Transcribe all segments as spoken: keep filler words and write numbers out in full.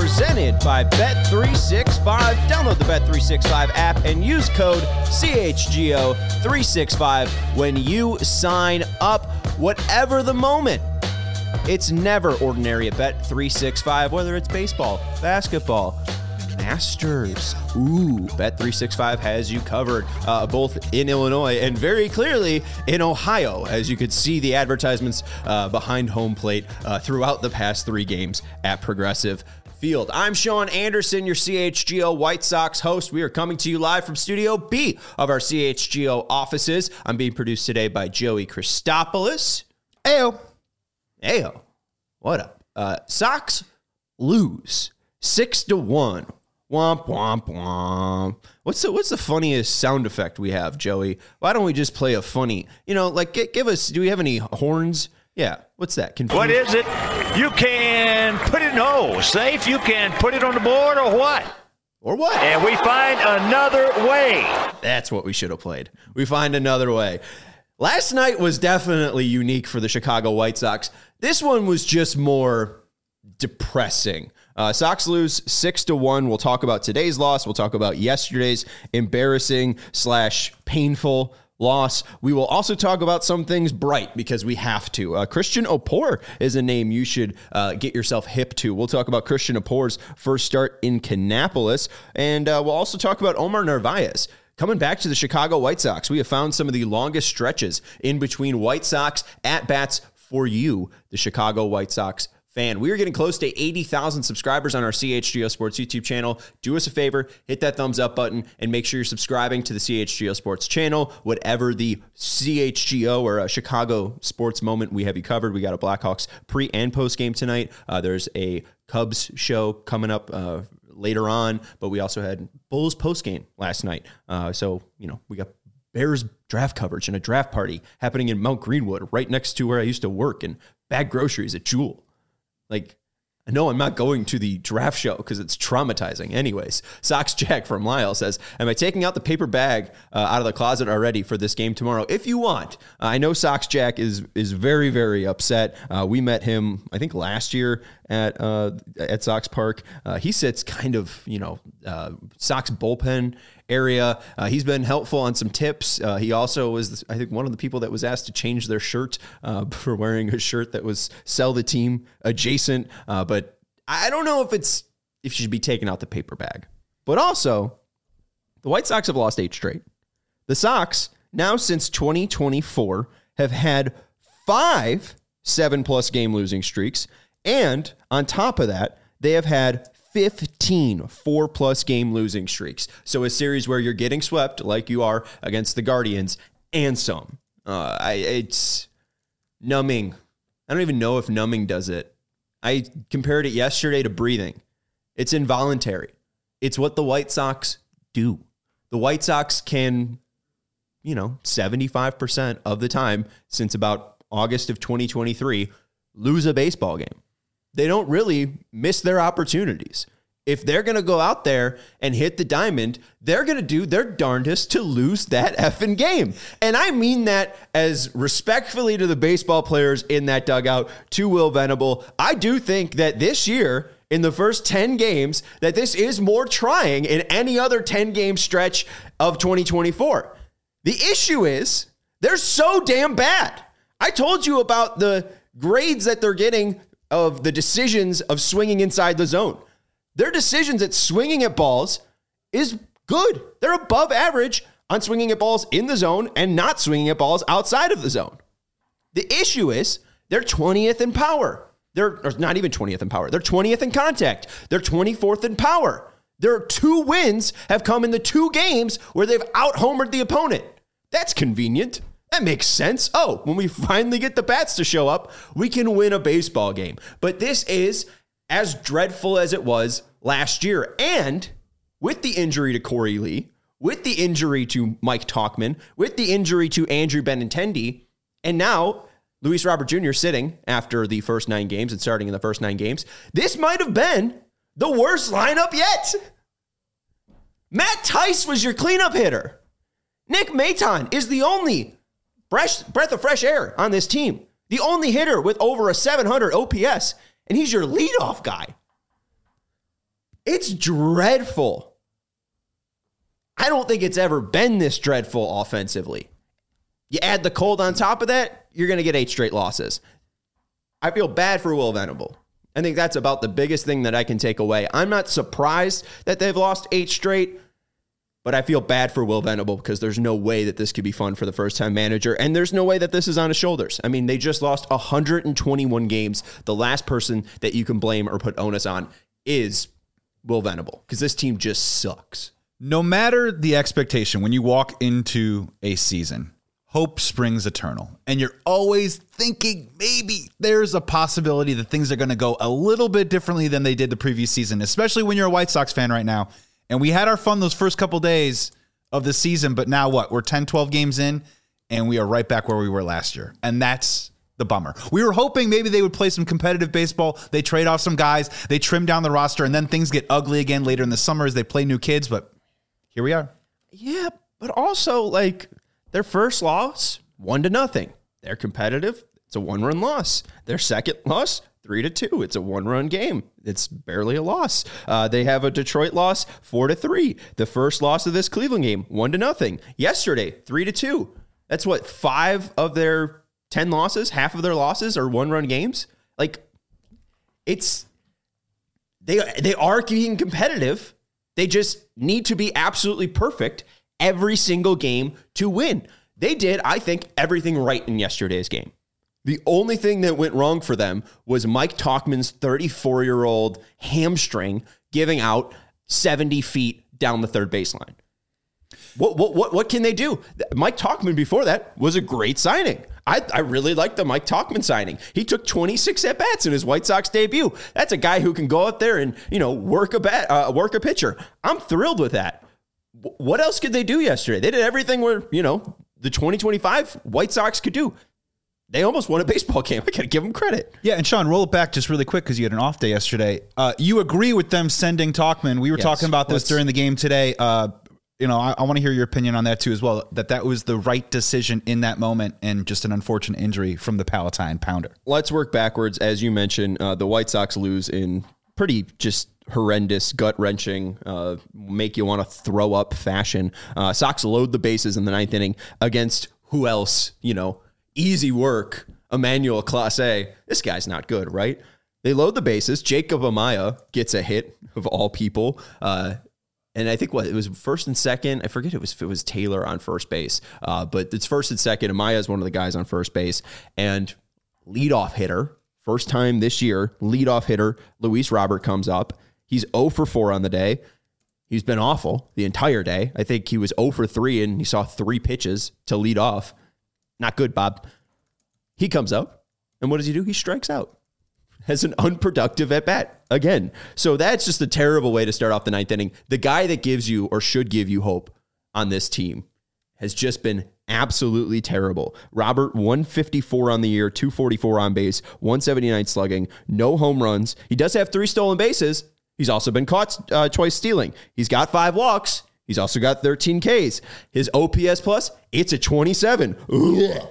presented by Bet three sixty-five. Download the Bet three sixty-five app and use code C H G O three sixty-five when you sign up. Whatever the moment, it's never ordinary at Bet three sixty-five, whether it's baseball, basketball, Masters. Ooh, Bet three sixty-five has you covered, uh, both in Illinois and very clearly in Ohio, as you could see the advertisements uh, behind home plate uh, throughout the past three games at Progressive Field. I'm Sean Anderson, your C H G O White Sox host. We are coming to you live from Studio B of our C H G O offices. I'm being produced today by Joey Christopoulos. Ayo. Ayo. What up? Uh, Sox lose six to one. Womp, womp, womp. What's the, what's the funniest sound effect we have, Joey? Why don't we just play a funny, you know, like, g- give us, do we have any horns? Yeah, what's that? Confused? What is it? You can put it, no, safe, you can put it on the board or what? Or what? And we find another way. That's what we should have played. We find another way. Last night was definitely unique for the Chicago White Sox. This one was just more depressing. Uh, Sox lose six to one. We'll talk about today's loss. We'll talk about yesterday's embarrassing slash painful loss. We will also talk about some things bright because we have to. Uh, Christian Oppor is a name you should uh, get yourself hip to. We'll talk about Christian Oppor's first start in Kannapolis, and uh, we'll also talk about Omar Narvaez. Coming back to the Chicago White Sox, we have found some of the longest stretches in between White Sox at-bats for you, the Chicago White Sox fan. We are getting close to eighty thousand subscribers on our C H G O Sports YouTube channel. Do us a favor, hit that thumbs up button, and make sure you're subscribing to the C H G O Sports channel. Whatever the C H G O or a Chicago sports moment, we have you covered. We got a Blackhawks pre and post game tonight. Uh, there's a Cubs show coming up uh, later on, but we also had Bulls post game last night. Uh, so, you know, we got Bears draft coverage and a draft party happening in Mount Greenwood, right next to where I used to work, and bag groceries at Jewel. Like, I know I'm not going to the draft show because it's traumatizing. Anyways, Sox Jack from Lyle says, am I taking out the paper bag uh, out of the closet already for this game tomorrow? If you want. Uh, I know Sox Jack is is very, very upset. Uh, we met him, I think, last year at uh, at Sox Park. Uh, he sits kind of, you know, uh, Sox bullpen area. Uh, he's been helpful on some tips. Uh, he also was, I think, one of the people that was asked to change their shirt uh, for wearing a shirt that was sell the team adjacent. Uh, but I don't know if it's if you should be taking out the paper bag. But also, the White Sox have lost eight straight. The Sox, now since twenty twenty-four, have had five seven-plus game losing streaks. And on top of that, they have had fifteen four-plus game losing streaks. So a series where you're getting swept like you are against the Guardians and some. Uh, I, it's numbing. I don't even know if numbing does it. I compared it yesterday to breathing. It's involuntary. It's what the White Sox do. The White Sox can, you know, seventy-five percent of the time since about August of twenty twenty-three, lose a baseball game. They don't really miss their opportunities. If they're going to go out there and hit the diamond, they're going to do their darndest to lose that effing game. And I mean that as respectfully to the baseball players in that dugout, to Will Venable. I do think that this year, in the first ten games, that this is more trying in any other ten-game stretch of twenty twenty-four. The issue is they're so damn bad. I told you about the grades that they're getting of the decisions of swinging inside the zone. Their decisions at swinging at balls is good. They're above average on swinging at balls in the zone and not swinging at balls outside of the zone. The issue is they're twentieth in power. They're or not even twentieth in power. They're twentieth in contact. They're twenty-fourth in power. Their two wins have come in the two games where they've out-homered the opponent. That's convenient. That makes sense. Oh, when we finally get the bats to show up, we can win a baseball game. But this is as dreadful as it was last year. And with the injury to Corey Lee, with the injury to Mike Tauchman, with the injury to Andrew Benintendi, and now Luis Robert Junior sitting after the first nine games and starting in the first nine games, this might have been the worst lineup yet. Matt Tice was your cleanup hitter. Nick Maton is the only fresh breath of fresh air on this team. The only hitter with over a seven hundred O P S, and he's your leadoff guy. It's dreadful. I don't think it's ever been this dreadful offensively. You add the cold on top of that, you're going to get eight straight losses. I feel bad for Will Venable. I think that's about the biggest thing that I can take away. I'm not surprised that they've lost eight straight, but I feel bad for Will Venable because there's no way that this could be fun for the first-time manager, and there's no way that this is on his shoulders. I mean, they just lost one hundred twenty-one games. The last person that you can blame or put onus on is Will Venable because this team just sucks. No matter the expectation, when you walk into a season, hope springs eternal. And you're always thinking maybe there's a possibility that things are going to go a little bit differently than they did the previous season, especially when you're a White Sox fan right now. And we had our fun those first couple days of the season, but now what? We're ten, twelve games in, and we are right back where we were last year. And that's the bummer. We were hoping maybe they would play some competitive baseball. They trade off some guys. They trim down the roster, and then things get ugly again later in the summer as they play new kids. But here we are. Yeah, but also, like, their first loss, one to nothing. They're competitive. It's a one-run loss. Their second loss, three to two. It's a one-run game. It's barely a loss. Uh, they have a Detroit loss, four to three. The first loss of this Cleveland game, one to nothing. Yesterday, three to two. That's what, five of their ten losses, half of their losses are one-run games. Like, it's they they are being competitive. They just need to be absolutely perfect every single game to win. They did, I think, everything right in yesterday's game. The only thing that went wrong for them was Mike Tauchman's thirty-four-year-old hamstring giving out seventy feet down the third baseline. What what what what can they do? Mike Tauchman before that was a great signing. I, I really like the Mike Tauchman signing. He took twenty-six at-bats in his White Sox debut. That's a guy who can go out there and, you know, work a bat, uh, work a pitcher. I'm thrilled with that. W- what else could they do yesterday? They did everything where, you know, the twenty twenty-five White Sox could do. They almost won a baseball game. I got to give them credit. Yeah, and Sean, roll it back just really quick because you had an off day yesterday. Uh, you agree with them sending Tauchman. We were yes, talking about this during the game today. Uh, you know, I, I want to hear your opinion on that too as well, that that was the right decision in that moment and just an unfortunate injury from the Palatine pounder. Let's work backwards. As you mentioned, uh, the White Sox lose in pretty just horrendous, gut-wrenching, uh, make you want to throw up fashion. Uh, Sox load the bases in the ninth inning against who else, you know, easy work, Emmanuel Clase. This guy's not good, right? They load the bases. Jacob Amaya gets a hit, of all people. Uh, and I think what it was first and second. I forget it was if it was Taylor on first base. Uh, but it's first and second. Amaya is one of the guys on first base. And leadoff hitter, first time this year, leadoff hitter, Luis Robert comes up. He's zero for four on the day. He's been awful the entire day. I think he was zero for three, and he saw three pitches to lead off. Not good, Bob. He comes up, and what does he do? He strikes out. Has an unproductive at-bat again. So that's just a terrible way to start off the ninth inning. The guy that gives you or should give you hope on this team has just been absolutely terrible. Robert, one fifty-four on the year, two forty-four on base, one seventy-nine slugging, no home runs. He does have three stolen bases. He's also been caught uh, twice stealing. He's got five walks. He's also got thirteen Ks. His O P S plus, it's a twenty-seven. Ugh.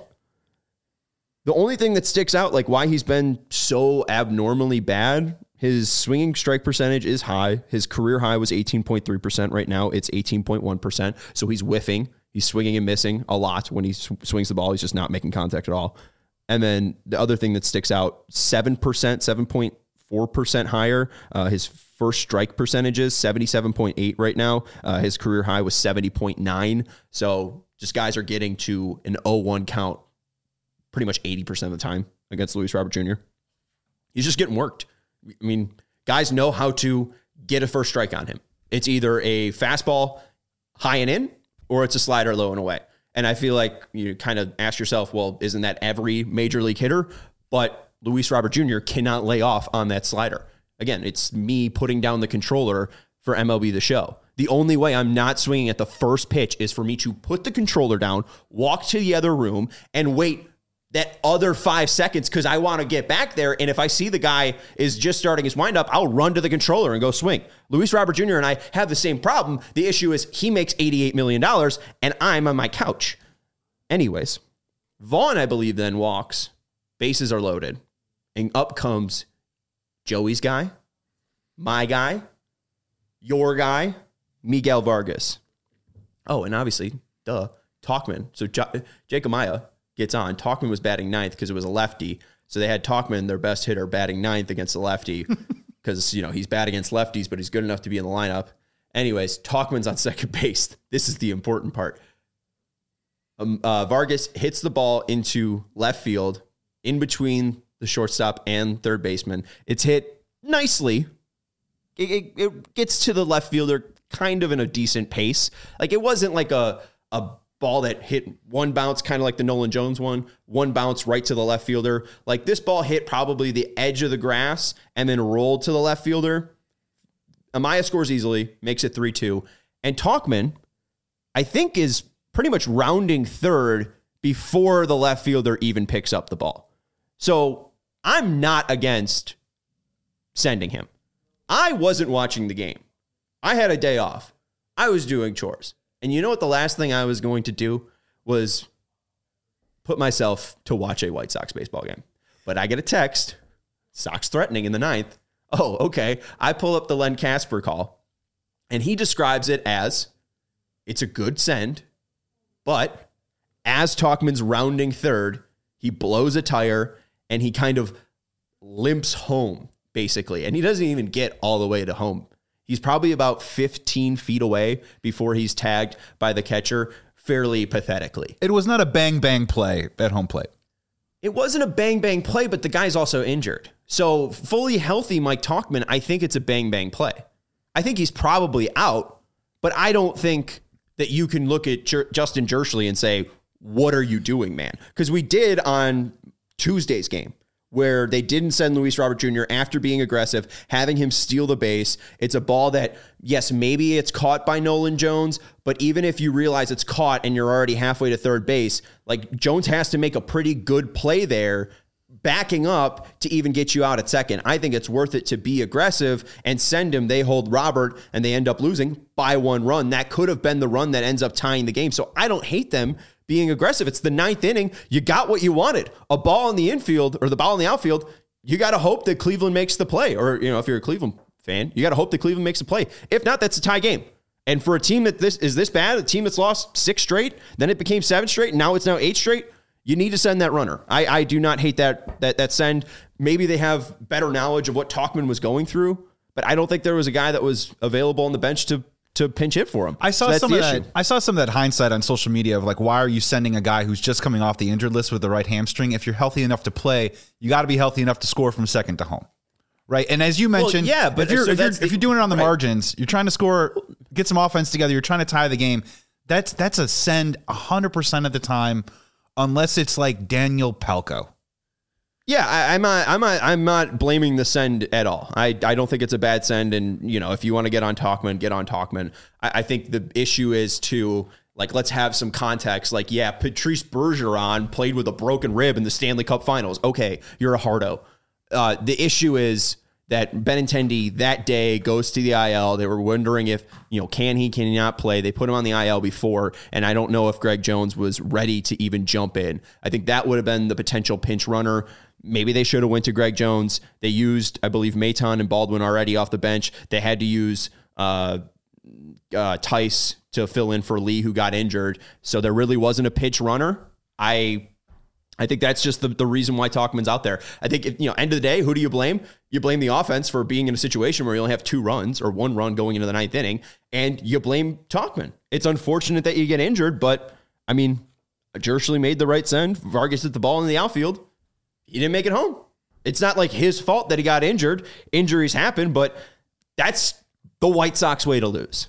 The only thing that sticks out, like why he's been so abnormally bad, his swinging strike percentage is high. His career high was eighteen point three percent. Right now, it's eighteen point one percent. So he's whiffing. He's swinging and missing a lot when he sw- swings the ball. He's just not making contact at all. And then the other thing that sticks out, seven percent, seven point four percent higher. Uh, his first strike percentage is seventy-seven point eight right now. Uh, his career high was seventy point nine. So just guys are getting to an oh one count pretty much eighty percent of the time against Luis Robert Junior He's just getting worked. I mean, guys know how to get a first strike on him. It's either a fastball high and in, or it's a slider low and away. And I feel like you kind of ask yourself, well, isn't that every major league hitter? But Luis Robert Junior cannot lay off on that slider. Again, it's me putting down the controller for M L B The Show. The only way I'm not swinging at the first pitch is for me to put the controller down, walk to the other room, and wait that other five seconds because I want to get back there. And if I see the guy is just starting his windup, I'll run to the controller and go swing. Luis Robert Junior and I have the same problem. The issue is he makes eighty-eight million dollars and I'm on my couch. Anyways, Vaughn, I believe, then walks. Bases are loaded. And up comes Joey's guy, my guy, your guy, Miguel Vargas. Oh, and obviously, duh, Tauchman. So J- Jacob Maya gets on. Tauchman was batting ninth because it was a lefty. So they had Tauchman, their best hitter, batting ninth against the lefty because, you know, he's bad against lefties, but he's good enough to be in the lineup. Anyways, Tauchman's on second base. This is the important part. Um, uh, Vargas hits the ball into left field in between the shortstop and third baseman. It's hit nicely. It, it, it gets to the left fielder kind of in a decent pace. Like it wasn't like a, a ball that hit one bounce, kind of like the Nolan Jones one, one bounce right to the left fielder. Like this ball hit probably the edge of the grass and then rolled to the left fielder. Amaya scores easily, makes it three two. And Tauchman, I think, is pretty much rounding third before the left fielder even picks up the ball. So I'm not against sending him. I wasn't watching the game. I had a day off. I was doing chores. And you know what the last thing I was going to do was put myself to watch a White Sox baseball game. But I get a text, Sox threatening in the ninth. Oh, okay. I pull up the Len Casper call, and he describes it as it's a good send, but as Tauchman's rounding third, he blows a tire, and he kind of limps home, basically. And he doesn't even get all the way to home. He's probably about fifteen feet away before he's tagged by the catcher fairly pathetically. It was not a bang-bang play at home plate. It wasn't a bang-bang play, but the guy's also injured. So fully healthy Mike Tauchman, I think it's a bang-bang play. I think he's probably out, but I don't think that you can look at Jer- Justin Jerschley and say, what are you doing, man? Because we did on Tuesday's game where they didn't send Luis Robert Junior after being aggressive, having him steal the base. It's a ball that, yes, maybe it's caught by Nolan Jones, but even if you realize it's caught and you're already halfway to third base, like Jones has to make a pretty good play there, backing up to even get you out at second. I think it's worth it to be aggressive and send him. They hold Robert and they end up losing by one run. That could have been the run that ends up tying the game. So I don't hate them being aggressive. It's the ninth inning. You got what you wanted. A ball in the infield or the ball in the outfield. You got to hope that Cleveland makes the play. Or, you know, if you're a Cleveland fan, you got to hope that Cleveland makes a play. If not, that's a tie game. And for a team that this is this bad, a team that's lost six straight, then it became seven straight, and now it's now eight straight, you need to send that runner. I, I do not hate that, that that send. Maybe they have better knowledge of what Tauchman was going through, but I don't think there was a guy that was available on the bench to to pinch hit for him. I saw so some of that. I saw some of that hindsight on social media of like, why are you sending a guy who's just coming off the injured list with the right hamstring? If you're healthy enough to play, you got to be healthy enough to score from second to home, right? And as you mentioned, well, yeah, but if you're so if, you're, the, if you're doing it on the right. margins, you're trying to score, get some offense together, you're trying to tie the game. That's that's a send one hundred percent of the time, unless it's like Daniel Palco. Yeah, I, I'm not. I'm not. I'm not blaming the send at all. I, I don't think it's a bad send. And you know, if you want to get on Tauchman, get on Tauchman. I, I think the issue is to like let's have some context. Like, yeah, Patrice Bergeron played with a broken rib in the Stanley Cup Finals. Okay, you're a hardo. Uh, the issue is that Benintendi that day goes to the I L. They were wondering if, you know, can he, can he not play? They put him on the I L before, and I don't know if Greg Jones was ready to even jump in. I think that would have been the potential pinch runner. Maybe they should have went to Greg Jones. They used, I believe, Maton and Baldwin already off the bench. They had to use uh, uh, Tice to fill in for Lee, who got injured. So there really wasn't a pitch runner. I I think that's just the, the reason why Tauchman's out there. I think, if, you know, end of the day, who do you blame? You blame the offense for being in a situation where you only have two runs or one run going into the ninth inning, and you blame Tauchman. It's unfortunate that you get injured, but, I mean, Jerschley made the right send. Vargas hit the ball in the outfield. He didn't make it home. It's not like his fault that he got injured. Injuries happen, but that's the White Sox way to lose.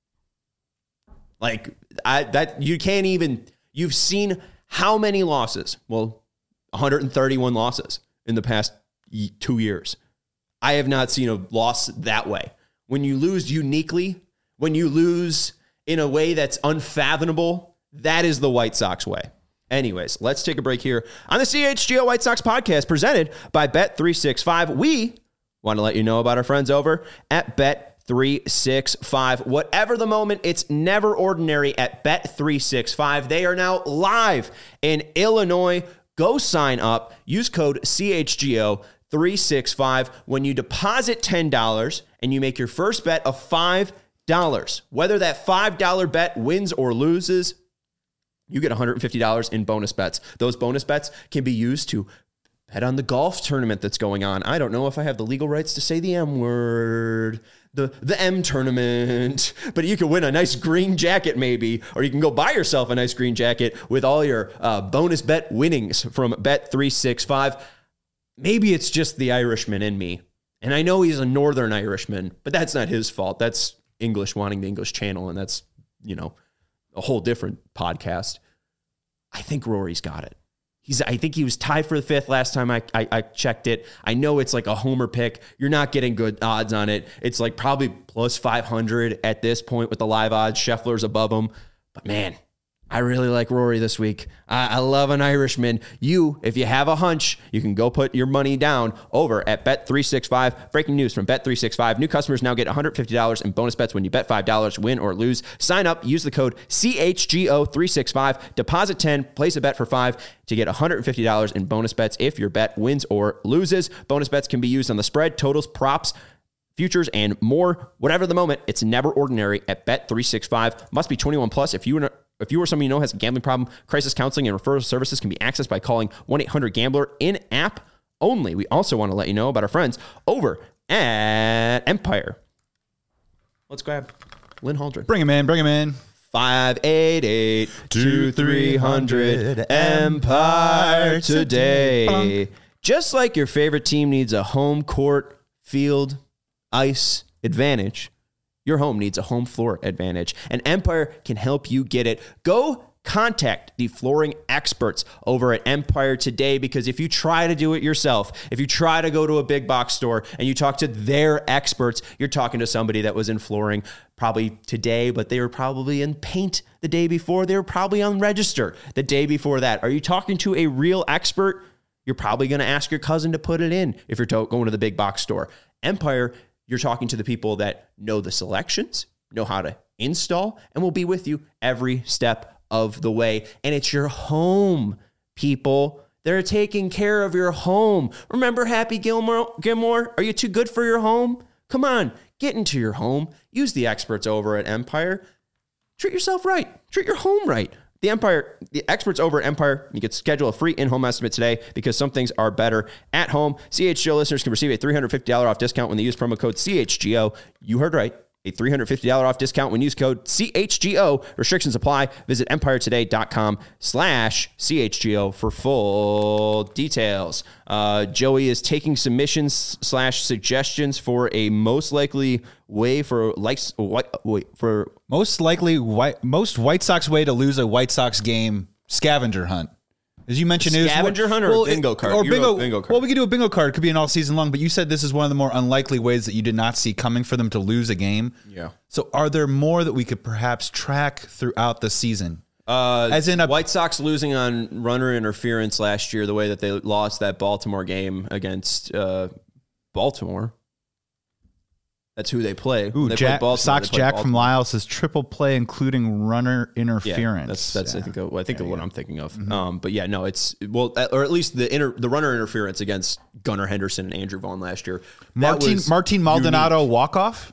Like, I, that you can't even, you've seen how many losses? Well, one hundred thirty-one losses in the past two years. I have not seen a loss that way. When you lose uniquely, when you lose in a way that's unfathomable, that is the White Sox way. Anyways, let's take a break here on the C H G O White Sox podcast presented by Bet three sixty-five. We want to let you know about our friends over at Bet three sixty-five. Whatever the moment, it's never ordinary at Bet three sixty-five. They are now live in Illinois. Go sign up. Use code C H G O. three sixty-five. When you deposit ten dollars and you make your first bet of five dollars, whether that five dollar bet wins or loses, you get one hundred fifty dollars in bonus bets. Those bonus bets can be used to bet on the golf tournament that's going on. I don't know if I have the legal rights to say the M word. The the M tournament. But you can win a nice green jacket maybe, or you can go buy yourself a nice green jacket with all your uh, bonus bet winnings from Bet three sixty-five. Maybe it's just the Irishman in me. And I know he's a Northern Irishman, but that's not his fault. That's English wanting the English channel, and that's, you know, a whole different podcast. I think Rory's got it. He's, I think he was tied for the fifth last time I, I, I checked it. I know it's like a homer pick. You're not getting good odds on it. It's like probably plus five hundred at this point with the live odds. Scheffler's above him. But man, I really like Rory this week. I, I love an Irishman. You, if you have a hunch, you can go put your money down over at Bet three sixty-five. Breaking news from Bet three sixty-five. New customers now get one hundred fifty dollars in bonus bets when you bet five dollars, win or lose. Sign up, use the code C H G O three sixty-five. Deposit ten, place a bet for five to get one hundred fifty dollars in bonus bets if your bet wins or loses. Bonus bets can be used on the spread, totals, props, futures, and more. Whatever the moment, it's never ordinary at Bet three sixty-five. Must be twenty-one plus. If you if you or someone you know has a gambling problem, crisis counseling and referral services can be accessed by calling one eight hundred gambler in-app only. We also want to let you know about our friends over at Empire. Let's grab Lynn Haldren. Bring him in, bring him in. five eight eight, two three hundred Empire today. Just like your favorite team needs a home court, field, ice advantage, your home needs a home floor advantage, and Empire can help you get it. Go contact the flooring experts over at Empire today, because if you try to do it yourself, if you try to go to a big box store and you talk to their experts, you're talking to somebody that was in flooring probably today, but they were probably in paint the day before. They were probably on Register the day before that. Are you talking to a real expert? You're probably going to ask your cousin to put it in if you're going to the big box store. Empire, you're talking to the people that know the selections, know how to install, and will be with you every step of the way. And it's your home, people. They're taking care of your home. Remember Happy Gilmore? Gilmore? Are you too good for your home? Come on, get into your home. Use the experts over at Empire. Treat yourself right. Treat your home right. The Empire, the experts over at Empire, you can schedule a free in-home estimate today, because some things are better at home. C H G O listeners can receive a three hundred fifty dollars off discount when they use promo code C H G O. You heard right. A three hundred fifty dollars off discount when you use code C H G O. Restrictions apply. Visit empiretoday.com slash CHGO for full details. Uh, Joey is taking submissions slash suggestions for a most likely way for likes wait, for Most likely, white, most White Sox way to lose a White Sox game scavenger hunt. As you mentioned, scavenger it was, hunt or well, a bingo card? Or You bingo, wrote bingo card. Well, we could do a bingo card. It could be an all season long, but you said this is one of the more unlikely ways that you did not see coming for them to lose a game. Yeah. So are there more that we could perhaps track throughout the season? Uh, As in a White Sox losing on runner interference last year, the way that they lost that Baltimore game against uh, Baltimore. That's who they play. Ooh, they Jack, play Sox they play Jack Baltimore. from Lyle says triple play, including runner interference. Yeah, that's that's Yeah. I think of, I think There of you what go. I'm thinking of. Mm-hmm. Um, but yeah, no, it's well, or at least the inter, the runner interference against Gunnar Henderson and Andrew Vaughn last year. That Martin was Martin Maldonado walk off.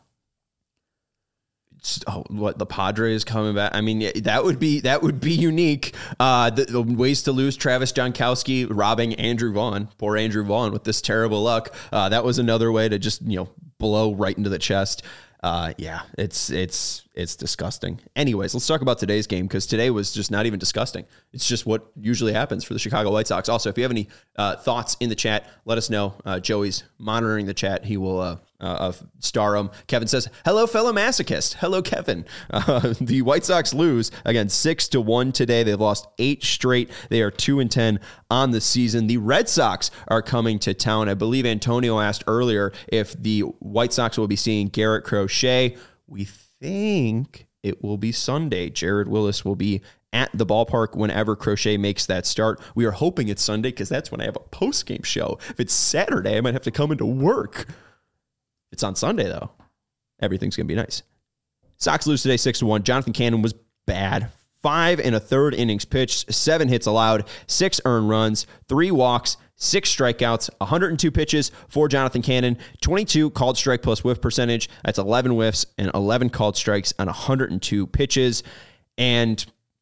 Oh, what the Padres coming back? I mean, yeah, that would be that would be unique. Uh, the, the ways to lose: Travis Jankowski robbing Andrew Vaughn, poor Andrew Vaughn with this terrible luck. Uh, that was another way to just you know blow right into the chest. Uh, yeah, it's it's it's disgusting. Anyways, let's talk about today's game, because today was just not even disgusting. It's just what usually happens for the Chicago White Sox. Also, if you have any uh, thoughts in the chat, let us know. Uh, Joey's monitoring the chat. He will uh, uh, star them. Kevin says, "Hello, fellow masochist." Hello, Kevin. Uh, the White Sox lose again six to one today. They've lost eight straight. They are two and ten on the season. The Red Sox are coming to town. I believe Antonio asked earlier if the White Sox will be seeing Garrett Crochet. We think it will be Sunday. Jared Willis will be at the ballpark whenever Crochet makes that start. We are hoping it's Sunday, because that's when I have a post-game show. If it's Saturday, I might have to come into work. It's on Sunday, though. Everything's going to be nice. Sox lose today six to one. Jonathan Cannon was bad. five and a third innings pitched, seven hits allowed, six earned runs, three walks, six strikeouts, one hundred two pitches for Jonathan Cannon, twenty-two called strike plus whiff percentage. That's eleven whiffs and eleven called strikes on one hundred two pitches. And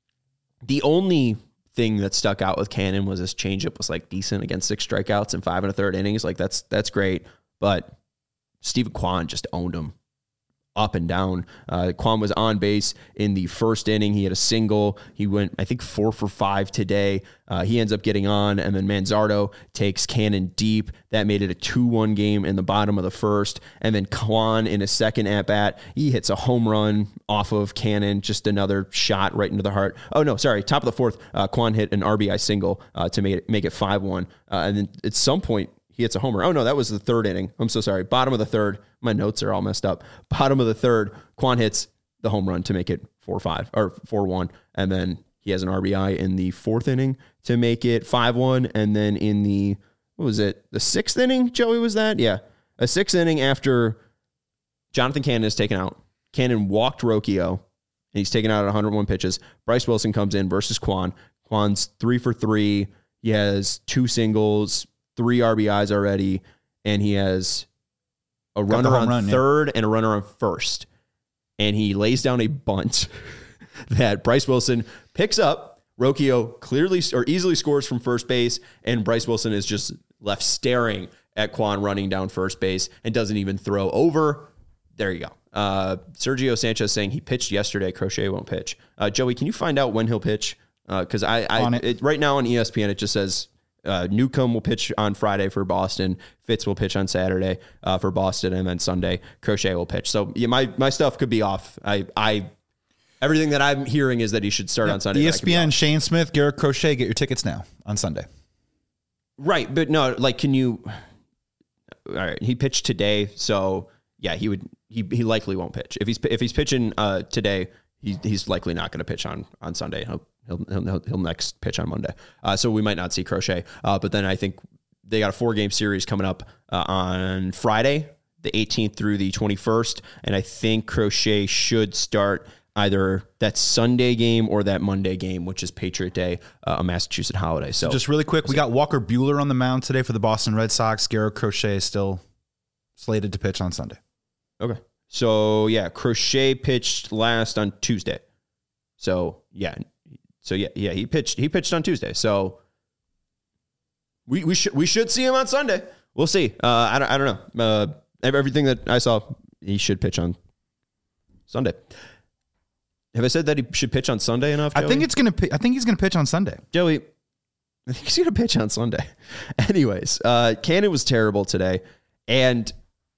the only thing that stuck out with Cannon was his changeup was like decent against six strikeouts and five and a third innings. Like that's that's great. But Steven Kwan just owned him up and down. Uh, Kwan was on base in the first inning. He had a single. He went, I think, four for five today. Uh, he ends up getting on, and then Manzardo takes Cannon deep. That made it a two one game in the bottom of the first. And then Kwan in his second at-bat, he hits a home run off of Cannon, just another shot right into the heart. Oh, no, sorry, top of the fourth, uh, Kwan hit an R B I single uh, to make it, make it five one. Uh, and then at some point, he hits a homer. Oh, no, that was the third inning. I'm so sorry. Bottom of the third. My notes are all messed up. Bottom of the third, Kwan hits the home run to make it four five or four one. And then he has an R B I in the fourth inning to make it five one. And then in the, what was it, the sixth inning, Joey, was that? Yeah. A sixth inning after Jonathan Cannon is taken out. Cannon walked Rocchio, and he's taken out at one hundred one pitches. Bryce Wilson comes in versus Kwan. Kwan's three for three. He has two singles, three R B Is already, and he has a runner on run, third yeah. and a runner on first. And he lays down a bunt that Bryce Wilson picks up. Rocchio clearly or easily scores from first base, and Bryce Wilson is just left staring at Kwan running down first base and doesn't even throw over. There you go. Uh, Sergio Sanchez saying he pitched yesterday. Crochet won't pitch. Uh, Joey, can you find out when he'll pitch? Because uh, I, I it. It, right now on E S P N, it just says Uh, Newcomb will pitch on Friday for Boston. Fitz will pitch on Saturday uh, for Boston, and then Sunday Crochet will pitch. So yeah, my my stuff could be off. I I everything that I'm hearing is that he should start yeah, on Sunday. E S P N, Shane Smith, Garrett Crochet, get your tickets now on Sunday. Right, but no, like, can you? All right, he pitched today, so yeah, he would. He he likely won't pitch if he's if he's pitching uh, today. He, he's likely not going to pitch on on Sunday. He'll He'll, he'll, he'll next pitch on Monday. Uh, so we might not see Crochet. Uh, but then I think they got a four-game series coming up uh, on Friday, the eighteenth through the twenty-first. And I think Crochet should start either that Sunday game or that Monday game, which is Patriot Day, uh, a Massachusetts holiday. So, so just really quick, we got Walker Buehler on the mound today for the Boston Red Sox. Garrett Crochet is still slated to pitch on Sunday. Okay. So, yeah, Crochet pitched last on Tuesday. So, yeah. So yeah, yeah, he pitched. He pitched on Tuesday. So we we should we should see him on Sunday. We'll see. Uh, I don't I don't know. Uh, everything that I saw, he should pitch on Sunday. Have I said that he should pitch on Sunday enough, Joey? I think it's gonna. I think he's gonna pitch on Sunday. Joey, I think he's gonna pitch on Sunday. Anyways, uh, Cannon was terrible today, and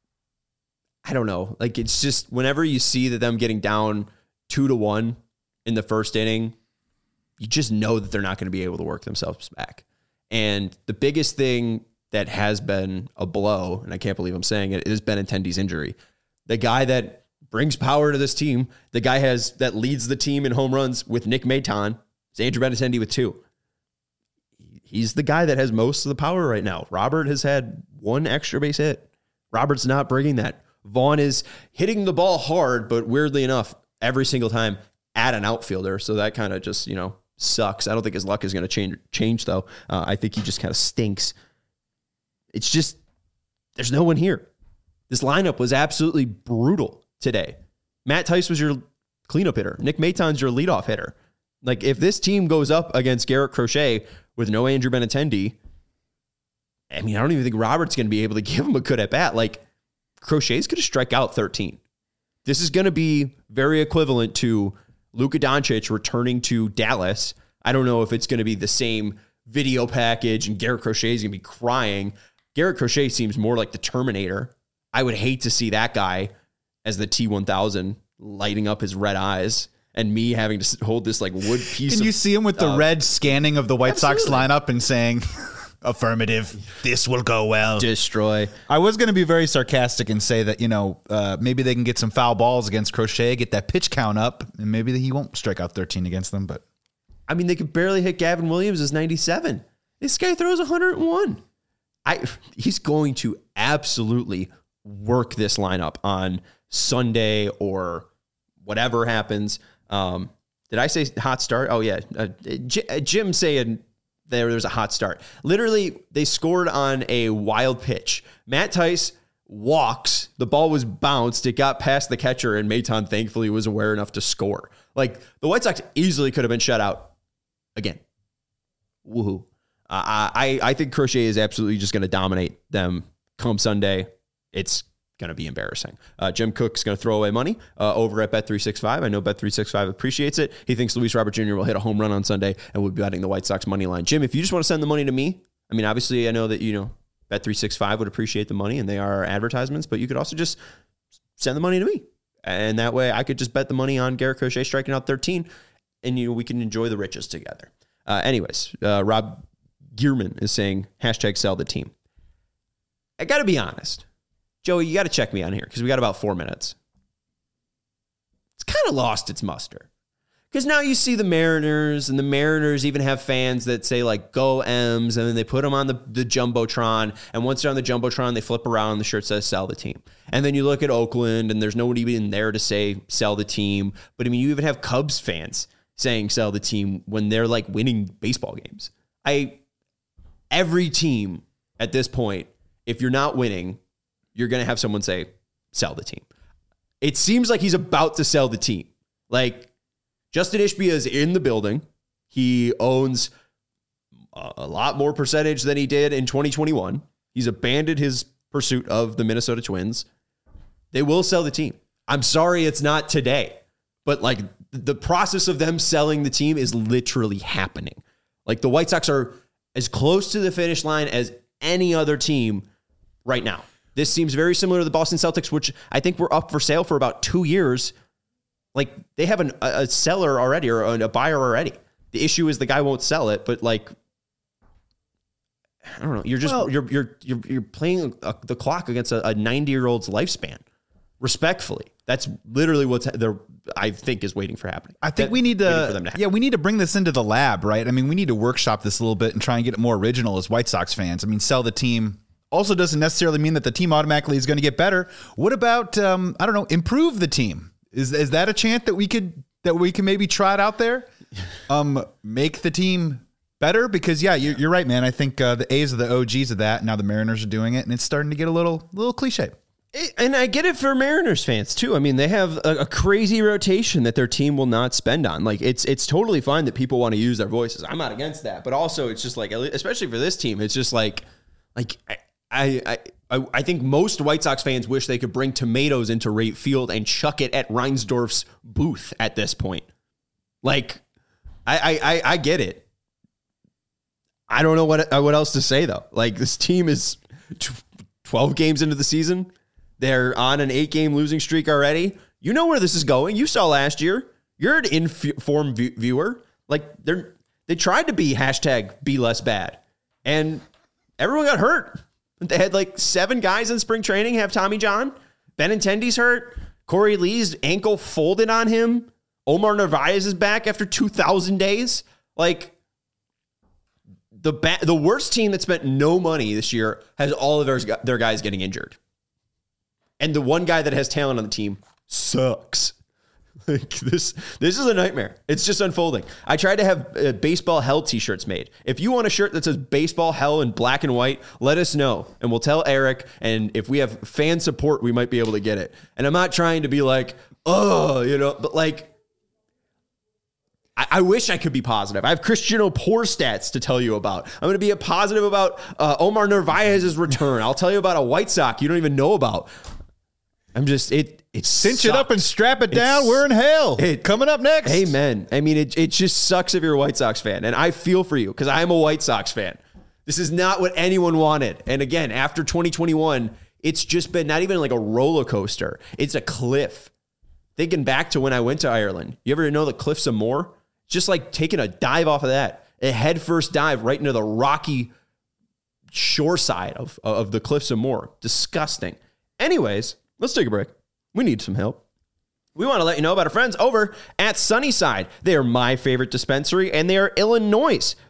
I don't know. Like, it's just whenever you see that them getting down two to one in the first inning, you just know that they're not going to be able to work themselves back. And the biggest thing that has been a blow, and I can't believe I'm saying it, is Benintendi's injury. The guy that brings power to this team, the guy has that leads the team in home runs with Nick Maton, is Andrew Benintendi with two. He's the guy that has most of the power right now. Robert has had one extra base hit. Robert's not bringing that. Vaughn is hitting the ball hard, but weirdly enough, every single time at an outfielder. So that kind of just, you know, sucks. I don't think his luck is going to change, change though. Uh, I think he just kind of stinks. It's just, there's no one here. This lineup was absolutely brutal today. Matt Tice was your cleanup hitter. Nick Maton's your leadoff hitter. Like, if this team goes up against Garrett Crochet with no Andrew Benintendi, I mean, I don't even think Robert's going to be able to give him a good at bat. Like, Crochet's going to strike out thirteen. This is going to be very equivalent to Luka Doncic returning to Dallas. I don't know if it's going to be the same video package and Garrett Crochet is going to be crying. Garrett Crochet seems more like the Terminator. I would hate to see that guy as the T one thousand lighting up his red eyes and me having to hold this like wood piece. Can of, you see him with the uh, red scanning of the White absolutely. Sox lineup and saying, affirmative, this will go well. Destroy. I was going to be very sarcastic and say that, you know, uh, maybe they can get some foul balls against Crochet, get that pitch count up, and maybe he won't strike out thirteen against them. But I mean, they could barely hit Gavin Williams as ninety-seven. This guy throws one hundred one. I he's going to absolutely work this lineup on Sunday or whatever happens. Um, Did I say hot start? Oh, yeah. Uh, J- Jim saying there, there was a hot start. Literally, they scored on a wild pitch. Matt Tice walks. The ball was bounced. It got past the catcher, and Maton thankfully was aware enough to score. Like, the White Sox easily could have been shut out again. Woohoo. Uh, I, I think Crochet is absolutely just going to dominate them come Sunday. It's going to be embarrassing. Uh, Jim Cook's going to throw away money uh, over at Bet three sixty-five. I know Bet three sixty-five appreciates it. He thinks Luis Robert Junior will hit a home run on Sunday and will be betting the White Sox money line. Jim, if you just want to send the money to me, I mean, obviously I know that, you know, Bet three sixty-five would appreciate the money and they are advertisements, but you could also just send the money to me. And that way I could just bet the money on Garrett Crochet striking out thirteen and, you know, we can enjoy the riches together. Uh, anyways, uh, Rob Gearman is saying hashtag sell the team. I got to be honest. Joey, you got to check me on here because we got about four minutes. It's kind of lost its muster. Because now you see the Mariners, and the Mariners even have fans that say, like, go M's, and then they put them on the, the Jumbotron, and once they're on the Jumbotron, they flip around, and the shirt says sell the team. And then you look at Oakland, and there's nobody even there to say sell the team. But, I mean, you even have Cubs fans saying sell the team when they're, like, winning baseball games. I every team at this point, if you're not winning, you're going to have someone say, sell the team. It seems like he's about to sell the team. Like, Justin Ishbia is in the building. He owns a lot more percentage than he did in twenty twenty-one. He's abandoned his pursuit of the Minnesota Twins. They will sell the team. I'm sorry it's not today, but like the process of them selling the team is literally happening. Like the White Sox are as close to the finish line as any other team right now. This seems very similar to the Boston Celtics, which I think were up for sale for about two years. Like they have an, a seller already or a buyer already. The issue is the guy won't sell it, but like, I don't know. You're just, well, you're, you're, you're, you're playing a, the clock against a ninety year old's lifespan. Respectfully. That's literally what's there. I think is waiting for happening. I think that, we need to, for them to yeah, we need to bring this into the lab, right? I mean, we need to workshop this a little bit and try and get it more original as White Sox fans. I mean, sell the team also doesn't necessarily mean that the team automatically is going to get better. What about, um, I don't know, improve the team? Is is that a chant that we could that we can maybe try it out there? Um, make the team better because yeah, you're, you're right, man. I think uh, the A's are the O Gs of that. Now the Mariners are doing it, and it's starting to get a little little cliche. And I get it for Mariners fans too. I mean, they have a, a crazy rotation that their team will not spend on. Like it's it's totally fine that people want to use their voices. I'm not against that, but also it's just like, especially for this team, it's just like like I I. I, I think most White Sox fans wish they could bring tomatoes into Rate Field and chuck it at Reinsdorf's booth at this point. Like, I I, I get it. I don't know what what else to say, though. Like, this team is twelve games into the season. They're on an eight-game losing streak already. You know where this is going. You saw last year. You're an informed viewer. Like, they're they tried to be hashtag be less bad. And everyone got hurt. They had like seven guys in spring training have Tommy John. Benintendi's hurt. Corey Lee's ankle folded on him. Omar Narvaez is back after two thousand days. Like the ba- the worst team that spent no money this year has all of their, their guys getting injured. And the one guy that has talent on the team sucks. Like this, this is a nightmare. It's just unfolding. I tried to have uh, baseball hell t-shirts made. If you want a shirt that says baseball hell in black and white, let us know and we'll tell Eric. And if we have fan support, we might be able to get it. And I'm not trying to be like, oh, you know, but like, I, I wish I could be positive. I have Cristiano Poor stats to tell you about. I'm going to be a positive about uh, Omar Narvaez's return. I'll tell you about a White Sox you don't even know about. I'm just, it, it cinch sucks. it up and strap it down. It's, We're in hell. It, Coming up next. Amen. I mean, it, it just sucks if you're a White Sox fan. And I feel for you because I'm a White Sox fan. This is not what anyone wanted. And again, after twenty twenty-one, it's just been not even like a roller coaster. It's a cliff. Thinking back to when I went to Ireland, you ever know the Cliffs of Moher? Just like taking a dive off of that, a head first dive right into the rocky shore side of, of the Cliffs of Moher. Disgusting. Anyways, let's take a break. We need some help. We want to let you know about our friends over at Sunnyside. They are my favorite dispensary, and they are Illinois'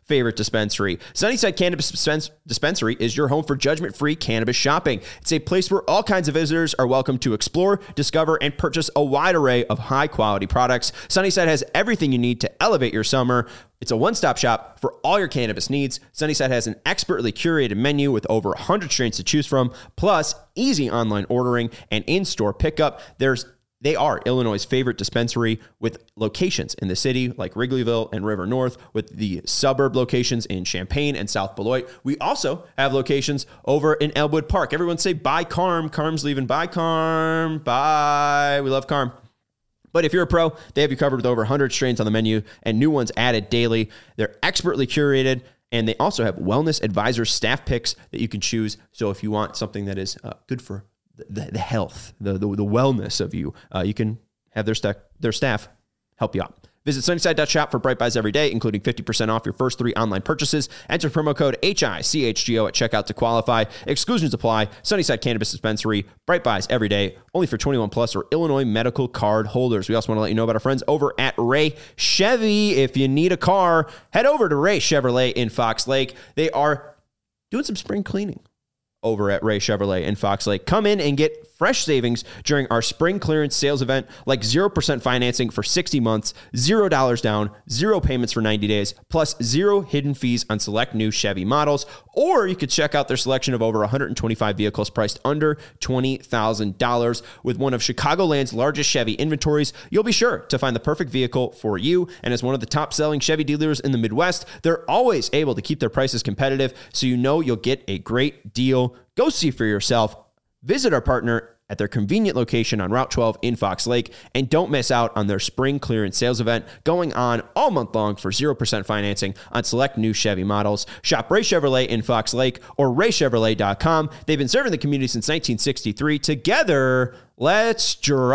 favorite dispensary. Sunnyside Cannabis Dispense- Dispensary is your home for judgment-free cannabis shopping. It's a place where all kinds of visitors are welcome to explore, discover, and purchase a wide array of high-quality products. Sunnyside has everything you need to elevate your summer. It's a one-stop shop for all your cannabis needs. Sunnyside has an expertly curated menu with over one hundred strains to choose from, plus easy online ordering and in-store pickup. There's They are Illinois' favorite dispensary with locations in the city like Wrigleyville and River North, with the suburb locations in Champaign and South Beloit. We also have locations over in Elwood Park. Everyone say bye, Carm. Carm's leaving. Bye, Carm. Bye. We love Carm. But if you're a pro, they have you covered with over one hundred strains on the menu and new ones added daily. They're expertly curated, and they also have wellness advisor staff picks that you can choose. So if you want something that is uh, good for the, the health, the, the the wellness of you, uh, you can have their, st- their staff help you out. Visit Sunnyside dot shop for Bright Buys every day, including fifty percent off your first three online purchases. Enter promo code H I C H G O at checkout to qualify. Exclusions apply. Sunnyside Cannabis Dispensary. Bright Buys every day, only for twenty-one plus or Illinois medical card holders. We also want to let you know about our friends over at Ray Chevy. If you need a car, head over to Ray Chevrolet in Fox Lake. They are doing some spring cleaning over at Ray Chevrolet in Fox Lake. Come in and get fresh savings during our spring clearance sales event, like zero percent financing for sixty months, zero dollars down, zero payments for ninety days, plus zero hidden fees on select new Chevy models. Or you could check out their selection of over one hundred twenty-five vehicles priced under twenty thousand dollars. With one of Chicagoland's largest Chevy inventories, you'll be sure to find the perfect vehicle for you. And as one of the top-selling Chevy dealers in the Midwest, they're always able to keep their prices competitive, so you know you'll get a great deal. Go see for yourself. Visit our partner at their convenient location on Route twelve in Fox Lake, and don't miss out on their spring clearance sales event going on all month long for zero percent financing on select new Chevy models. Shop Ray Chevrolet in Fox Lake or ray chevrolet dot com. They've been serving the community since nineteen sixty-three. Together, let's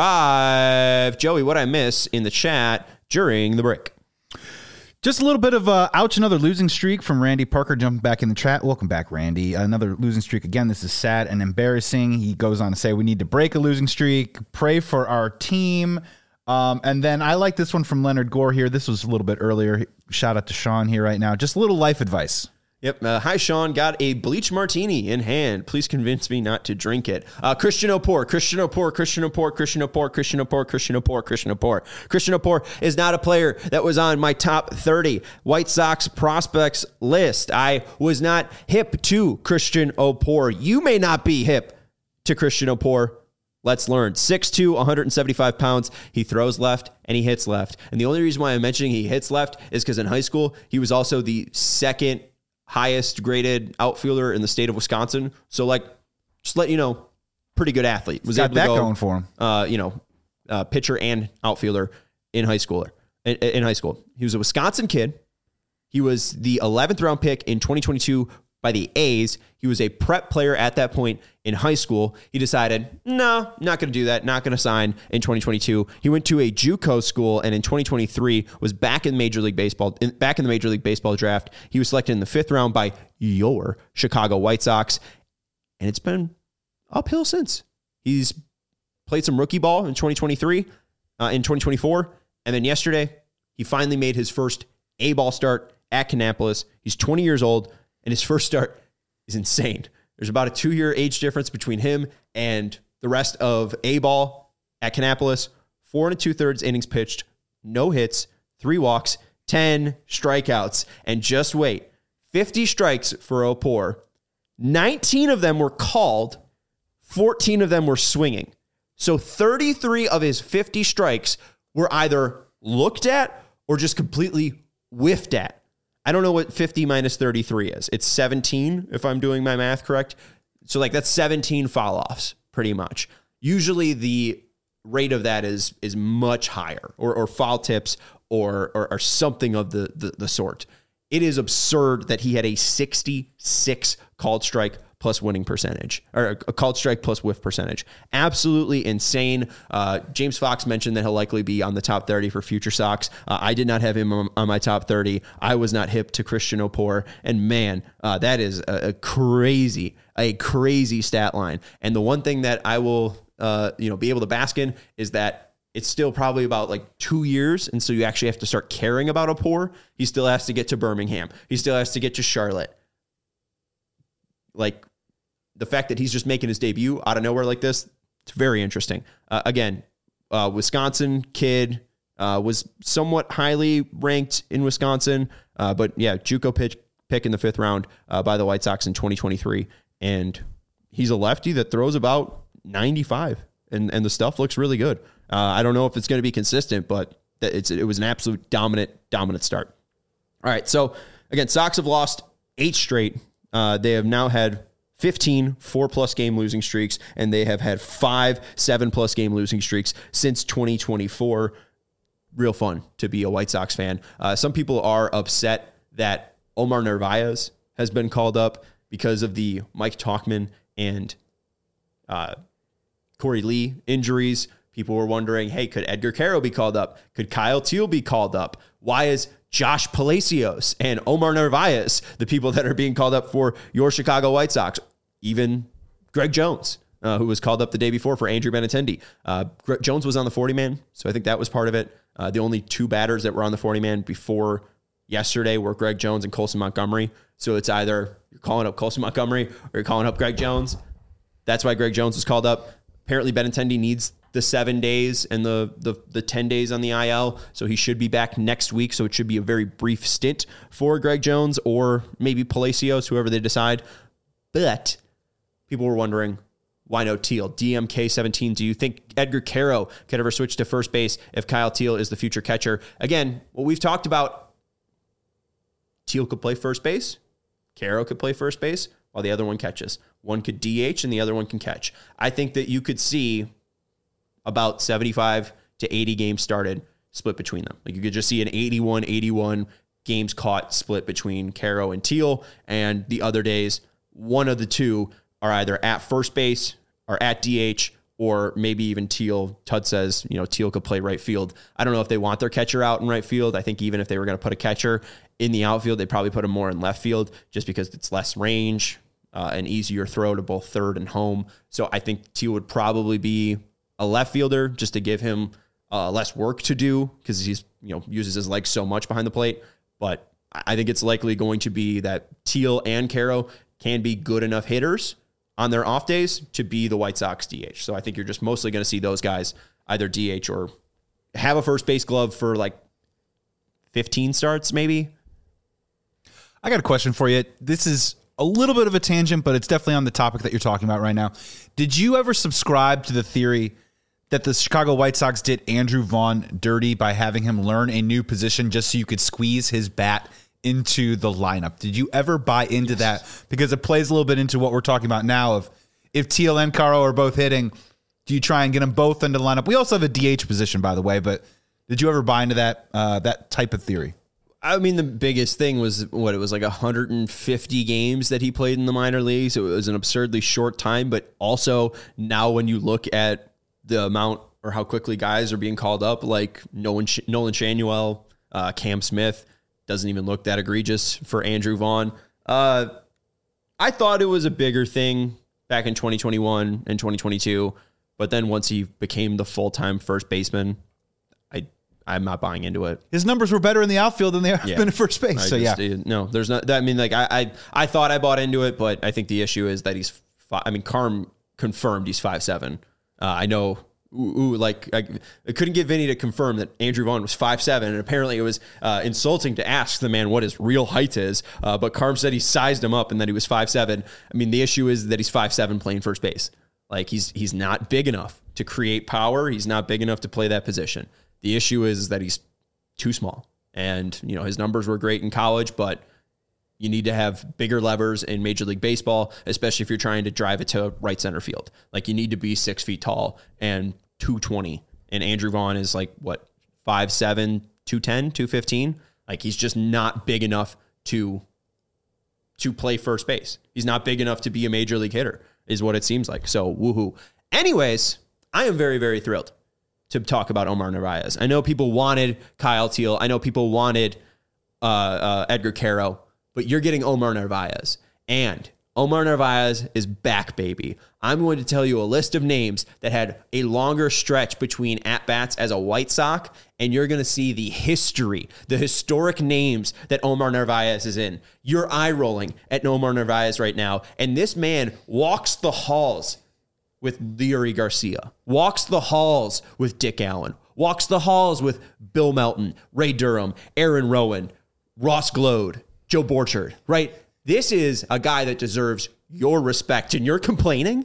drive. Joey, what I miss in the chat during the break? Just a little bit of uh, ouch, another losing streak from Randy Parker jumping back in the chat. Welcome back, Randy. Another losing streak. Again, this is sad and embarrassing. He goes on to say, we need to break a losing streak, pray for our team. Um, and then I like this one from Leonard Gore here. This was a little bit earlier. Shout out to Sean here right now. Just a little life advice. Yep. Uh, hi, Sean. Got a bleach martini in hand. Please convince me not to drink it. Uh, Christian Opor, Christian Opor, Christian Opor, Christian Opor, Christian Opor, Christian Opor, Christian Opor. Christian Opor is not a player that was on my top thirty White Sox prospects list. I was not hip to Christian Opor. You may not be hip to Christian Opor. Let's learn. six two, one hundred seventy-five pounds. He throws left and he hits left. And the only reason why I'm mentioning he hits left is because in high school, he was also the second highest graded outfielder in the state of Wisconsin. So, like, just let you know, pretty good athlete. Was Got able that to go, going for him. Uh, you know, uh, pitcher and outfielder in high school. In, in high school, he was a Wisconsin kid. He was the eleventh round pick in twenty twenty-two by the A's. He was a prep player at that point in high school. He decided, no, not going to do that. Not going to sign in twenty twenty-two. He went to a JUCO school, and in twenty twenty-three was back in Major League Baseball. In, back in the Major League Baseball draft. He was selected in the fifth round by your Chicago White Sox, and it's been uphill since. He's played some rookie ball in twenty twenty-three, uh, in twenty twenty-four, and then yesterday he finally made his first A-ball start at Kannapolis. He's twenty years old, and his first start is insane. There's about a two-year age difference between him and the rest of A-ball at Kannapolis. Four and a two-thirds innings pitched, no hits, three walks, ten strikeouts. And just wait, fifty strikes for Opor. nineteen of them were called, fourteen of them were swinging. So thirty-three of his fifty strikes were either looked at or just completely whiffed at. I don't know what fifty minus thirty-three is. It's seventeen, if I'm doing my math correct. So, like, that's seventeen foul-offs, pretty much. Usually the rate of that is is much higher, or, or foul tips, or, or or something of the, the, the sort. It is absurd that he had a sixty-six called strike plus winning percentage, or a called strike plus whiff percentage. Absolutely insane. Uh, James Fox mentioned that he'll likely be on the top thirty for future Sox. Uh, I did not have him on, on my top thirty. I was not hip to Christian Opor. And man, uh, that is a, a crazy, a crazy stat line. And the one thing that I will, uh, you know, be able to bask in is that it's still probably about like two years. And so you actually have to start caring about a pour. He still has to get to Birmingham. He still has to get to Charlotte. Like the fact that he's just making his debut out of nowhere like this, it's very interesting. Uh, again, uh, Wisconsin kid uh, was somewhat highly ranked in Wisconsin. Uh, but yeah, JUCO pitch, pick in the fifth round uh, by the White Sox in twenty twenty-three. And he's a lefty that throws about ninety-five. And, and the stuff looks really good. Uh, I don't know if it's going to be consistent, but it's, it was an absolute dominant, dominant start. All right. So again, Sox have lost eight straight. Uh, they have now had fifteen four-plus game losing streaks, and they have had five seven-plus game losing streaks since twenty twenty-four. Real fun to be a White Sox fan. Uh, some people are upset that Omar Narvaez has been called up because of the Mike Tauchman and uh, Corey Lee injuries. People were wondering, hey, could Edgar Caro be called up? Could Kyle Teal be called up? Why is Josh Palacios and Omar Narvaez the people that are being called up for your Chicago White Sox? Even Greg Jones, uh, who was called up the day before for Andrew Benintendi. Uh, Greg Jones was on the forty-man, so I think that was part of it. Uh, the only two batters that were on the forty-man before yesterday were Greg Jones and Colson Montgomery. So it's either you're calling up Colson Montgomery or you're calling up Greg Jones. That's why Greg Jones was called up. Apparently Benintendi needs the seven days and the, the the ten days on the I L, so he should be back next week. So it should be a very brief stint for Greg Jones or maybe Palacios, whoever they decide. But people were wondering, why no Teal? D M K seventeen, do you think Edgar Caro could ever switch to first base if Kyle Teal is the future catcher? Again, what we've talked about, Teal could play first base, Caro could play first base, while the other one catches. One could D H and the other one can catch. I think that you could see about seventy-five to eighty games started split between them. Like you could just see an eighty-one eighty-one games caught split between Caro and Teal, and the other days, one of the two are either at first base or at D H, or maybe even Teal. Tud says, you know, Teal could play right field. I don't know if they want their catcher out in right field. I think even if they were going to put a catcher in the outfield, they'd probably put him more in left field just because it's less range, uh, an easier throw to both third and home. So I think Teal would probably be a left fielder just to give him uh, less work to do because he's, you know, uses his legs so much behind the plate. But I think it's likely going to be that Teal and Caro can be good enough hitters on their off days to be the White Sox D H. So I think you're just mostly going to see those guys either D H or have a first base glove for like fifteen starts, maybe. I got a question for you. This is a little bit of a tangent, but it's definitely on the topic that you're talking about right now. Did you ever subscribe to the theory that the Chicago White Sox did Andrew Vaughn dirty by having him learn a new position just so you could squeeze his bat into the lineup? Did you ever buy into yes. that? Because it plays a little bit into what we're talking about now of if Teal and Caro are both hitting, do you try and get them both into the lineup? We also have a D H position, by the way, but did you ever buy into that uh, that type of theory? I mean, the biggest thing was what it was like one hundred fifty games that he played in the minor leagues. It was an absurdly short time, but also now when you look at the amount or how quickly guys are being called up, like Nolan, Nolan Shanuel, uh, Cam Smith, doesn't even look that egregious for Andrew Vaughn. Uh, I thought it was a bigger thing back in twenty twenty-one and twenty twenty-two, but then once he became the full-time first baseman, I I'm not buying into it. His numbers were better in the outfield than they have yeah. been at first base. I so just, yeah, no, there's not. I mean, like I, I, I thought I bought into it, but I think the issue is that he's. Five, I mean, Carm confirmed he's five seven. Uh, I know. Ooh, ooh, like I, I couldn't get Vinny to confirm that Andrew Vaughn was five seven, and apparently it was uh, insulting to ask the man what his real height is. Uh, but Carm said he sized him up and that he was five seven. I mean, the issue is that he's five seven playing first base. Like he's he's not big enough to create power. He's not big enough to play that position. The issue is that he's too small. And, you know, his numbers were great in college, but you need to have bigger levers in Major League Baseball, especially if you're trying to drive it to right center field. Like you need to be six feet tall and two twenty. And Andrew Vaughn is like, what, five seven, two ten, two fifteen? Like he's just not big enough to, to play first base. He's not big enough to be a major league hitter is what it seems like. So woohoo. Anyways, I am very, very thrilled to talk about Omar Narvaez. I know people wanted Kyle Teal. I know people wanted uh, uh, Edgar Caro, but you're getting Omar Narvaez. And Omar Narvaez is back, baby. I'm going to tell you a list of names that had a longer stretch between at-bats as a White Sox, and you're going to see the history, the historic names that Omar Narvaez is in. You're eye-rolling at Omar Narvaez right now, and this man walks the halls with Leury Garcia, walks the halls with Dick Allen, walks the halls with Bill Melton, Ray Durham, Aaron Rowan, Ross Glode, Joe Borchard, right? This is a guy that deserves your respect, and you're complaining?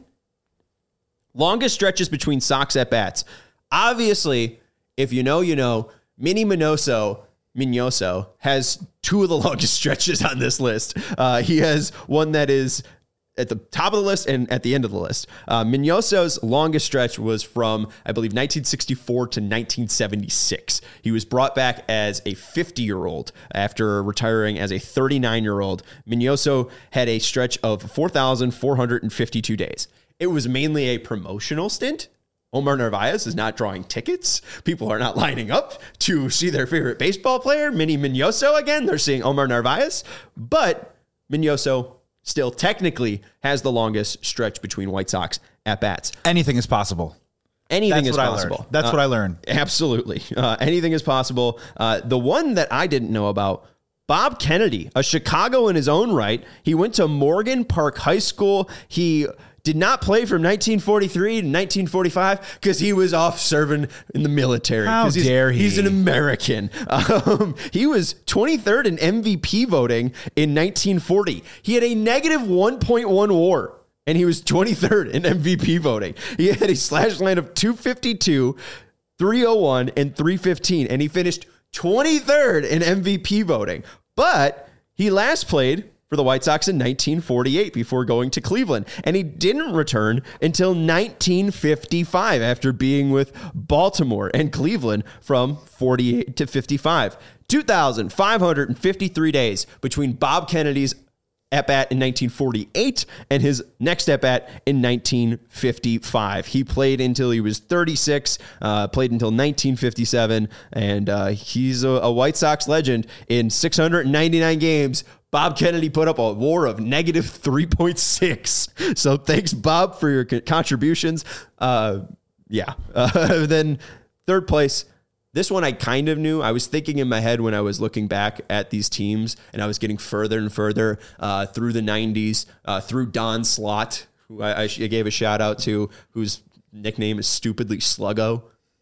Longest stretches between Sox at-bats. Obviously, if you know, you know, Minnie Minoso, Minoso has two of the longest stretches on this list. Uh, he has one that is at the top of the list and at the end of the list. Uh, Minoso's longest stretch was from, I believe, nineteen sixty-four to nineteen seventy-six. He was brought back as a fifty-year-old after retiring as a thirty-nine-year-old. Minoso had a stretch of four thousand four hundred fifty-two days. It was mainly a promotional stint. Omar Narvaez is not drawing tickets. People are not lining up to see their favorite baseball player, Minnie Minoso, again. They're seeing Omar Narvaez. But Minoso still technically has the longest stretch between White Sox at-bats. Anything is possible. Anything That's is what possible. I learned. That's uh, what I learned. Absolutely. Uh, anything is possible. Uh, the one that I didn't know about, Bob Kennedy, a Chicago in his own right. He went to Morgan Park High School. He did not play from nineteen forty-three to nineteen forty-five because he was off serving in the military. How he's, dare he? He's an American. Um, he was twenty-third in M V P voting in nineteen forty. He had a negative one point one WAR, and he was twenty-third in M V P voting. He had a slash line of two fifty-two, three oh one, and three fifteen, and he finished twenty-third in M V P voting. But he last played for the White Sox in nineteen forty-eight before going to Cleveland. And he didn't return until nineteen fifty-five after being with Baltimore and Cleveland from forty-eight to fifty-five. two thousand five hundred fifty-three days between Bob Kennedy's at-bat in nineteen forty-eight and his next at-bat in nineteen fifty-five. He played until he was thirty-six, uh, played until nineteen fifty-seven, and uh, he's a, a White Sox legend. In six hundred ninety-nine games, Bob Kennedy put up a WAR of negative three point six. So thanks, Bob, for your contributions. Uh, yeah. Uh, then third place. This one I kind of knew. I was thinking in my head when I was looking back at these teams, and I was getting further and further uh, through the nineties, uh, through Don Slott, who I, I gave a shout out to, whose nickname is stupidly Sluggo.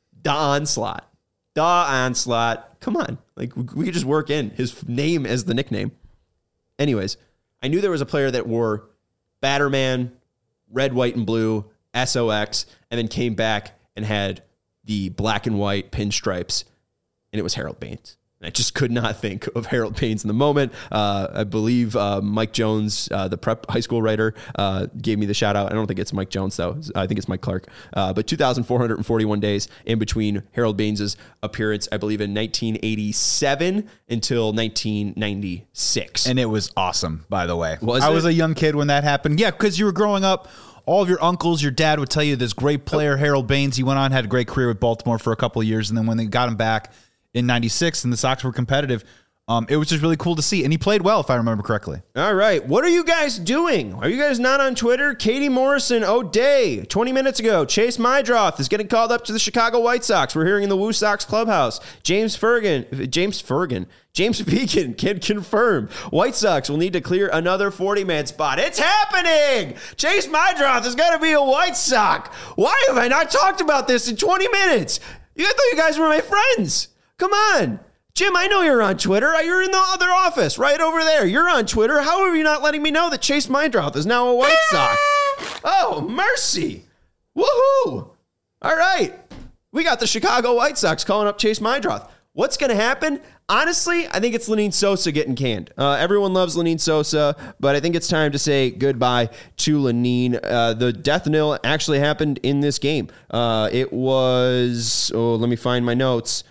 Don Slott. Don Slott. Come on. Like, we, we could just work in his name as the nickname. Anyways, I knew there was a player that wore Batterman, red, white, and blue, S O X, and then came back and had the black and white pinstripes, and it was Harold Baines. And I just could not think of Harold Baines in the moment. Uh, I believe uh, Mike Jones, uh, the prep high school writer, uh, gave me the shout out. I don't think it's Mike Jones, though. I think it's Mike Clark. Uh, but two thousand four hundred forty-one days in between Harold Baines' appearance, I believe, in nineteen eighty-seven until nineteen ninety-six. And it was awesome, by the way. Was I it? was a young kid when that happened. Yeah, because you were growing up. All of your uncles, your dad would tell you this great player, Harold Baines. He went on, had a great career with Baltimore for a couple of years. And then when they got him back in ninety-six and the Sox were competitive, um, it was just really cool to see. And he played well, if I remember correctly. All right. What are you guys doing? Are you guys not on Twitter? Katie Morrison O'Day, twenty minutes ago. Chase Mydroth is getting called up to the Chicago White Sox. We're hearing in the Woo Sox clubhouse. James Fergan, James Fergan, James Vegan can confirm White Sox will need to clear another forty-man spot. It's happening! Chase Mydroth is going to be a White Sox. Why have I not talked about this in twenty minutes? I thought you guys were my friends. Come on. Jim, I know you're on Twitter. You're in the other office right over there. You're on Twitter. How are you not letting me know that Chase Mydroth is now a White Sox? Oh, mercy. Woohoo. All right. We got the Chicago White Sox calling up Chase Mydroth. What's going to happen? Honestly, I think it's Lenyn Sosa getting canned. Uh, everyone loves Lenyn Sosa, but I think it's time to say goodbye to Lenyn. Uh, the death knell actually happened in this game. Uh, it was, oh, let me find my notes.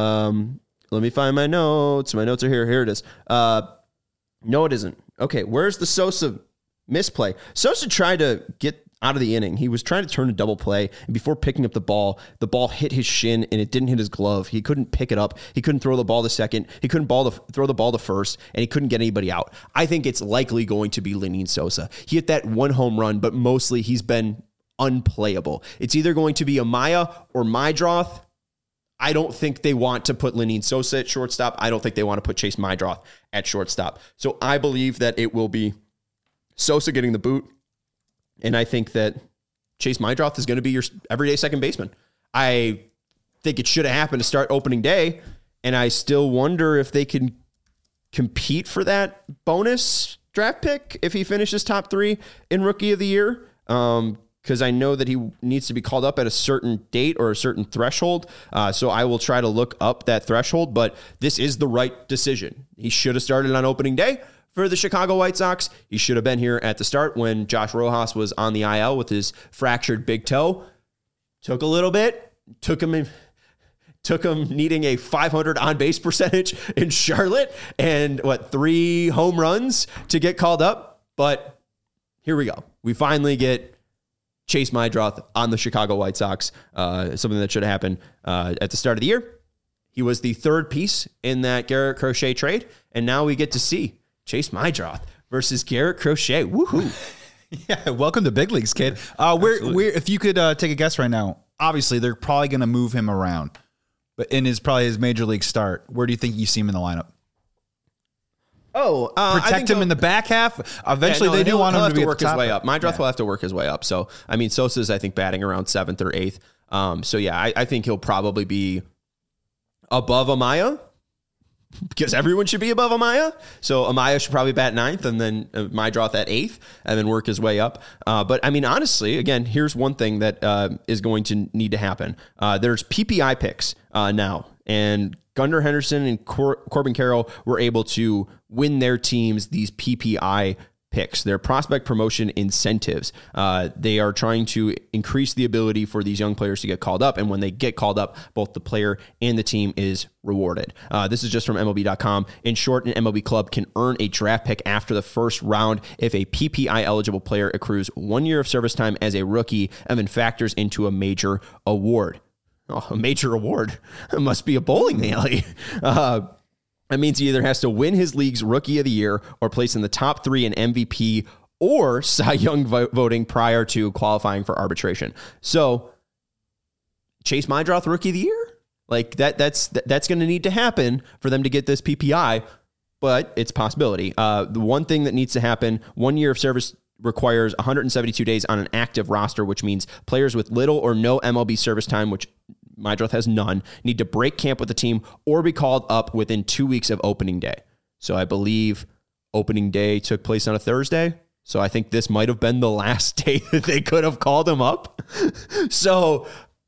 Um, let me find my notes. My notes are here. Here it is. Uh, no, it isn't. Okay, where's the Sosa misplay? Sosa tried to get out of the inning. He was trying to turn a double play, and before picking up the ball, the ball hit his shin and it didn't hit his glove. He couldn't pick it up. He couldn't throw the ball to second. He couldn't ball the, throw the ball to first, and he couldn't get anybody out. I think it's likely going to be Lenyn Sosa. He hit that one home run, but mostly he's been unplayable. It's either going to be Amaya or Meidroth. I don't think they want to put Lenyn Sosa at shortstop. I don't think they want to put Chase Meidroth at shortstop. So I believe that it will be Sosa getting the boot. And I think that Chase Meidroth is going to be your everyday second baseman. I think it should have happened to start opening day. And I still wonder if they can compete for that bonus draft pick if he finishes top three in Rookie of the Year. Um, because I know that he needs to be called up at a certain date or a certain threshold. Uh, so I will try to look up that threshold. But this is the right decision. He should have started on opening day. For the Chicago White Sox, he should have been here at the start when Josh Rojas was on the I L with his fractured big toe. Took a little bit, took him in, took him needing a five hundred on-base percentage in Charlotte and, what, three home runs to get called up. But here we go. We finally get Chase Meidroth on the Chicago White Sox, uh, something that should have happened uh, at the start of the year. He was the third piece in that Garrett Crochet trade, and now we get to see Chase Meidroth versus Garrett Crochet. Woohoo. Yeah, welcome to big leagues, kid. Uh, we're, we're, if you could uh, take a guess right now, obviously they're probably going to move him around, but in his probably his major league start, where do you think you see him in the lineup? Oh, uh, protect him in the back half. Eventually, yeah, no, they do want him to, be to work his way up. Meidroth yeah. will have to work his way up. So, I mean, Sosa's I think batting around seventh or eighth. Um, so yeah, I, I think he'll probably be above Amaya. Because everyone should be above Amaya. So Amaya should probably bat ninth and then uh, Meidroth at eighth and then work his way up. Uh, but I mean, honestly, again, here's one thing that uh, is going to need to happen. Uh, there's P P I picks uh, now, and Gunnar Henderson and Cor- Corbin Carroll were able to win their teams these P P I picks, their prospect promotion incentives. Uh, they are trying to increase the ability for these young players to get called up. And when they get called up, both the player and the team is rewarded. Uh, this is just from M L B dot com. In short, an M L B club can earn a draft pick after the first round if a P P I eligible player accrues one year of service time as a rookie and then factors into a major award. Oh, a major award. It must be a bowling alley. Uh, That means he either has to win his league's Rookie of the Year or place in the top three in M V P or Cy Young vo- voting prior to qualifying for arbitration. So, Chase Meidroth Rookie of the Year? Like, that that's that's going to need to happen for them to get this P P I, but it's a possibility. Uh, the one thing that needs to happen, one year of service requires one hundred seventy-two days on an active roster, which means players with little or no M L B service time, which Meidroth has none, need to break camp with the team or be called up within two weeks of opening day. So I believe opening day took place on a Thursday. So I think this might have been the last day that they could have called him up. So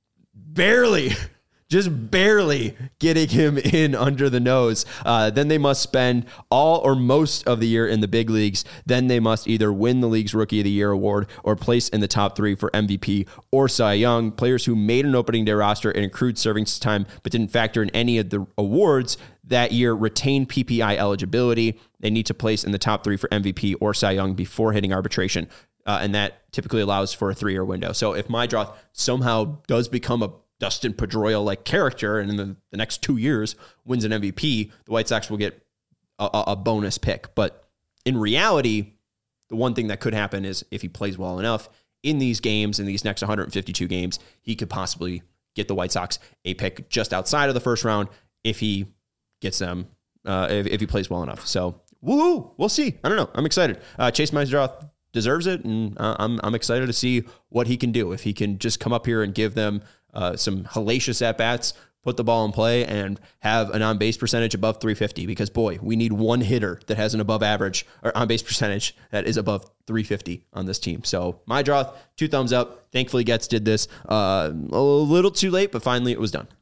barely, just barely getting him in under the nose. Uh, then they must spend all or most of the year in the big leagues. Then they must either win the league's Rookie of the Year award or place in the top three for M V P or Cy Young. Players who made an opening day roster and accrued serving time but didn't factor in any of the awards that year retain P P I eligibility. They need to place in the top three for M V P or Cy Young before hitting arbitration. Uh, and that typically allows for a three-year window. So if Meidroth somehow does become a Dustin Pedroia-like character, and in the, the next two years wins an M V P, the White Sox will get a, a bonus pick. But in reality, the one thing that could happen is if he plays well enough in these games, in these next one hundred fifty-two games, he could possibly get the White Sox a pick just outside of the first round if he gets them, uh, if, if he plays well enough. So, woohoo, we'll see. I don't know. I'm excited. Uh, Chase Meidroth deserves it, and uh, I'm I'm excited to see what he can do. If he can just come up here and give them uh, some hellacious at-bats, put the ball in play, and have an on-base percentage above three fifty, because, boy, we need one hitter that has an above average or on-base percentage that is above three fifty on this team. So, Meidroth, two thumbs up. Thankfully, Getz did this uh, a little too late, but finally it was done.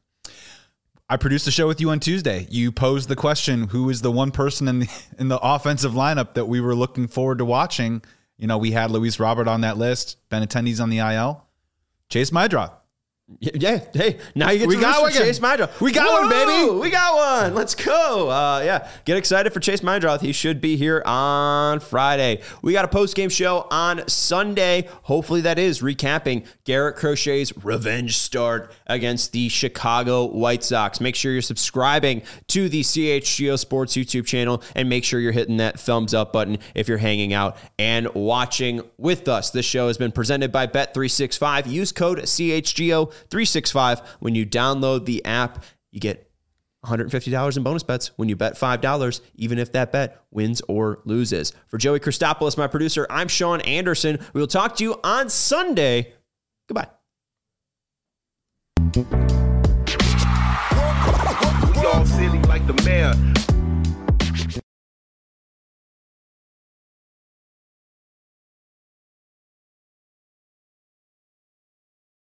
I produced a show with you on Tuesday. You posed the question, who is the one person in the in the offensive lineup that we were looking forward to watching? You know, we had Luis Robert on that list, Benintendi's on the I L. Chase Meidroth. Yeah, hey, now you get We to got root for one. Chase Meindroth. We got one, baby. We got one. Let's go. Uh, yeah, get excited for Chase Meindroth. He should be here on Friday. We got a post-game show on Sunday. Hopefully that is recapping Garrett Crochet's revenge start against the Chicago White Sox. Make sure you're subscribing to the C H G O Sports YouTube channel and make sure you're hitting that thumbs up button if you're hanging out and watching with us. This show has been presented by Bet three sixty-five. Use code C H G O three sixty-five. When you download the app, you get one hundred fifty dollars in bonus bets when you bet five dollars, even if that bet wins or loses. For Joey Christopoulos, my producer, I'm Sean Anderson. We will talk to you on Sunday. Goodbye. We all silly like the mayor.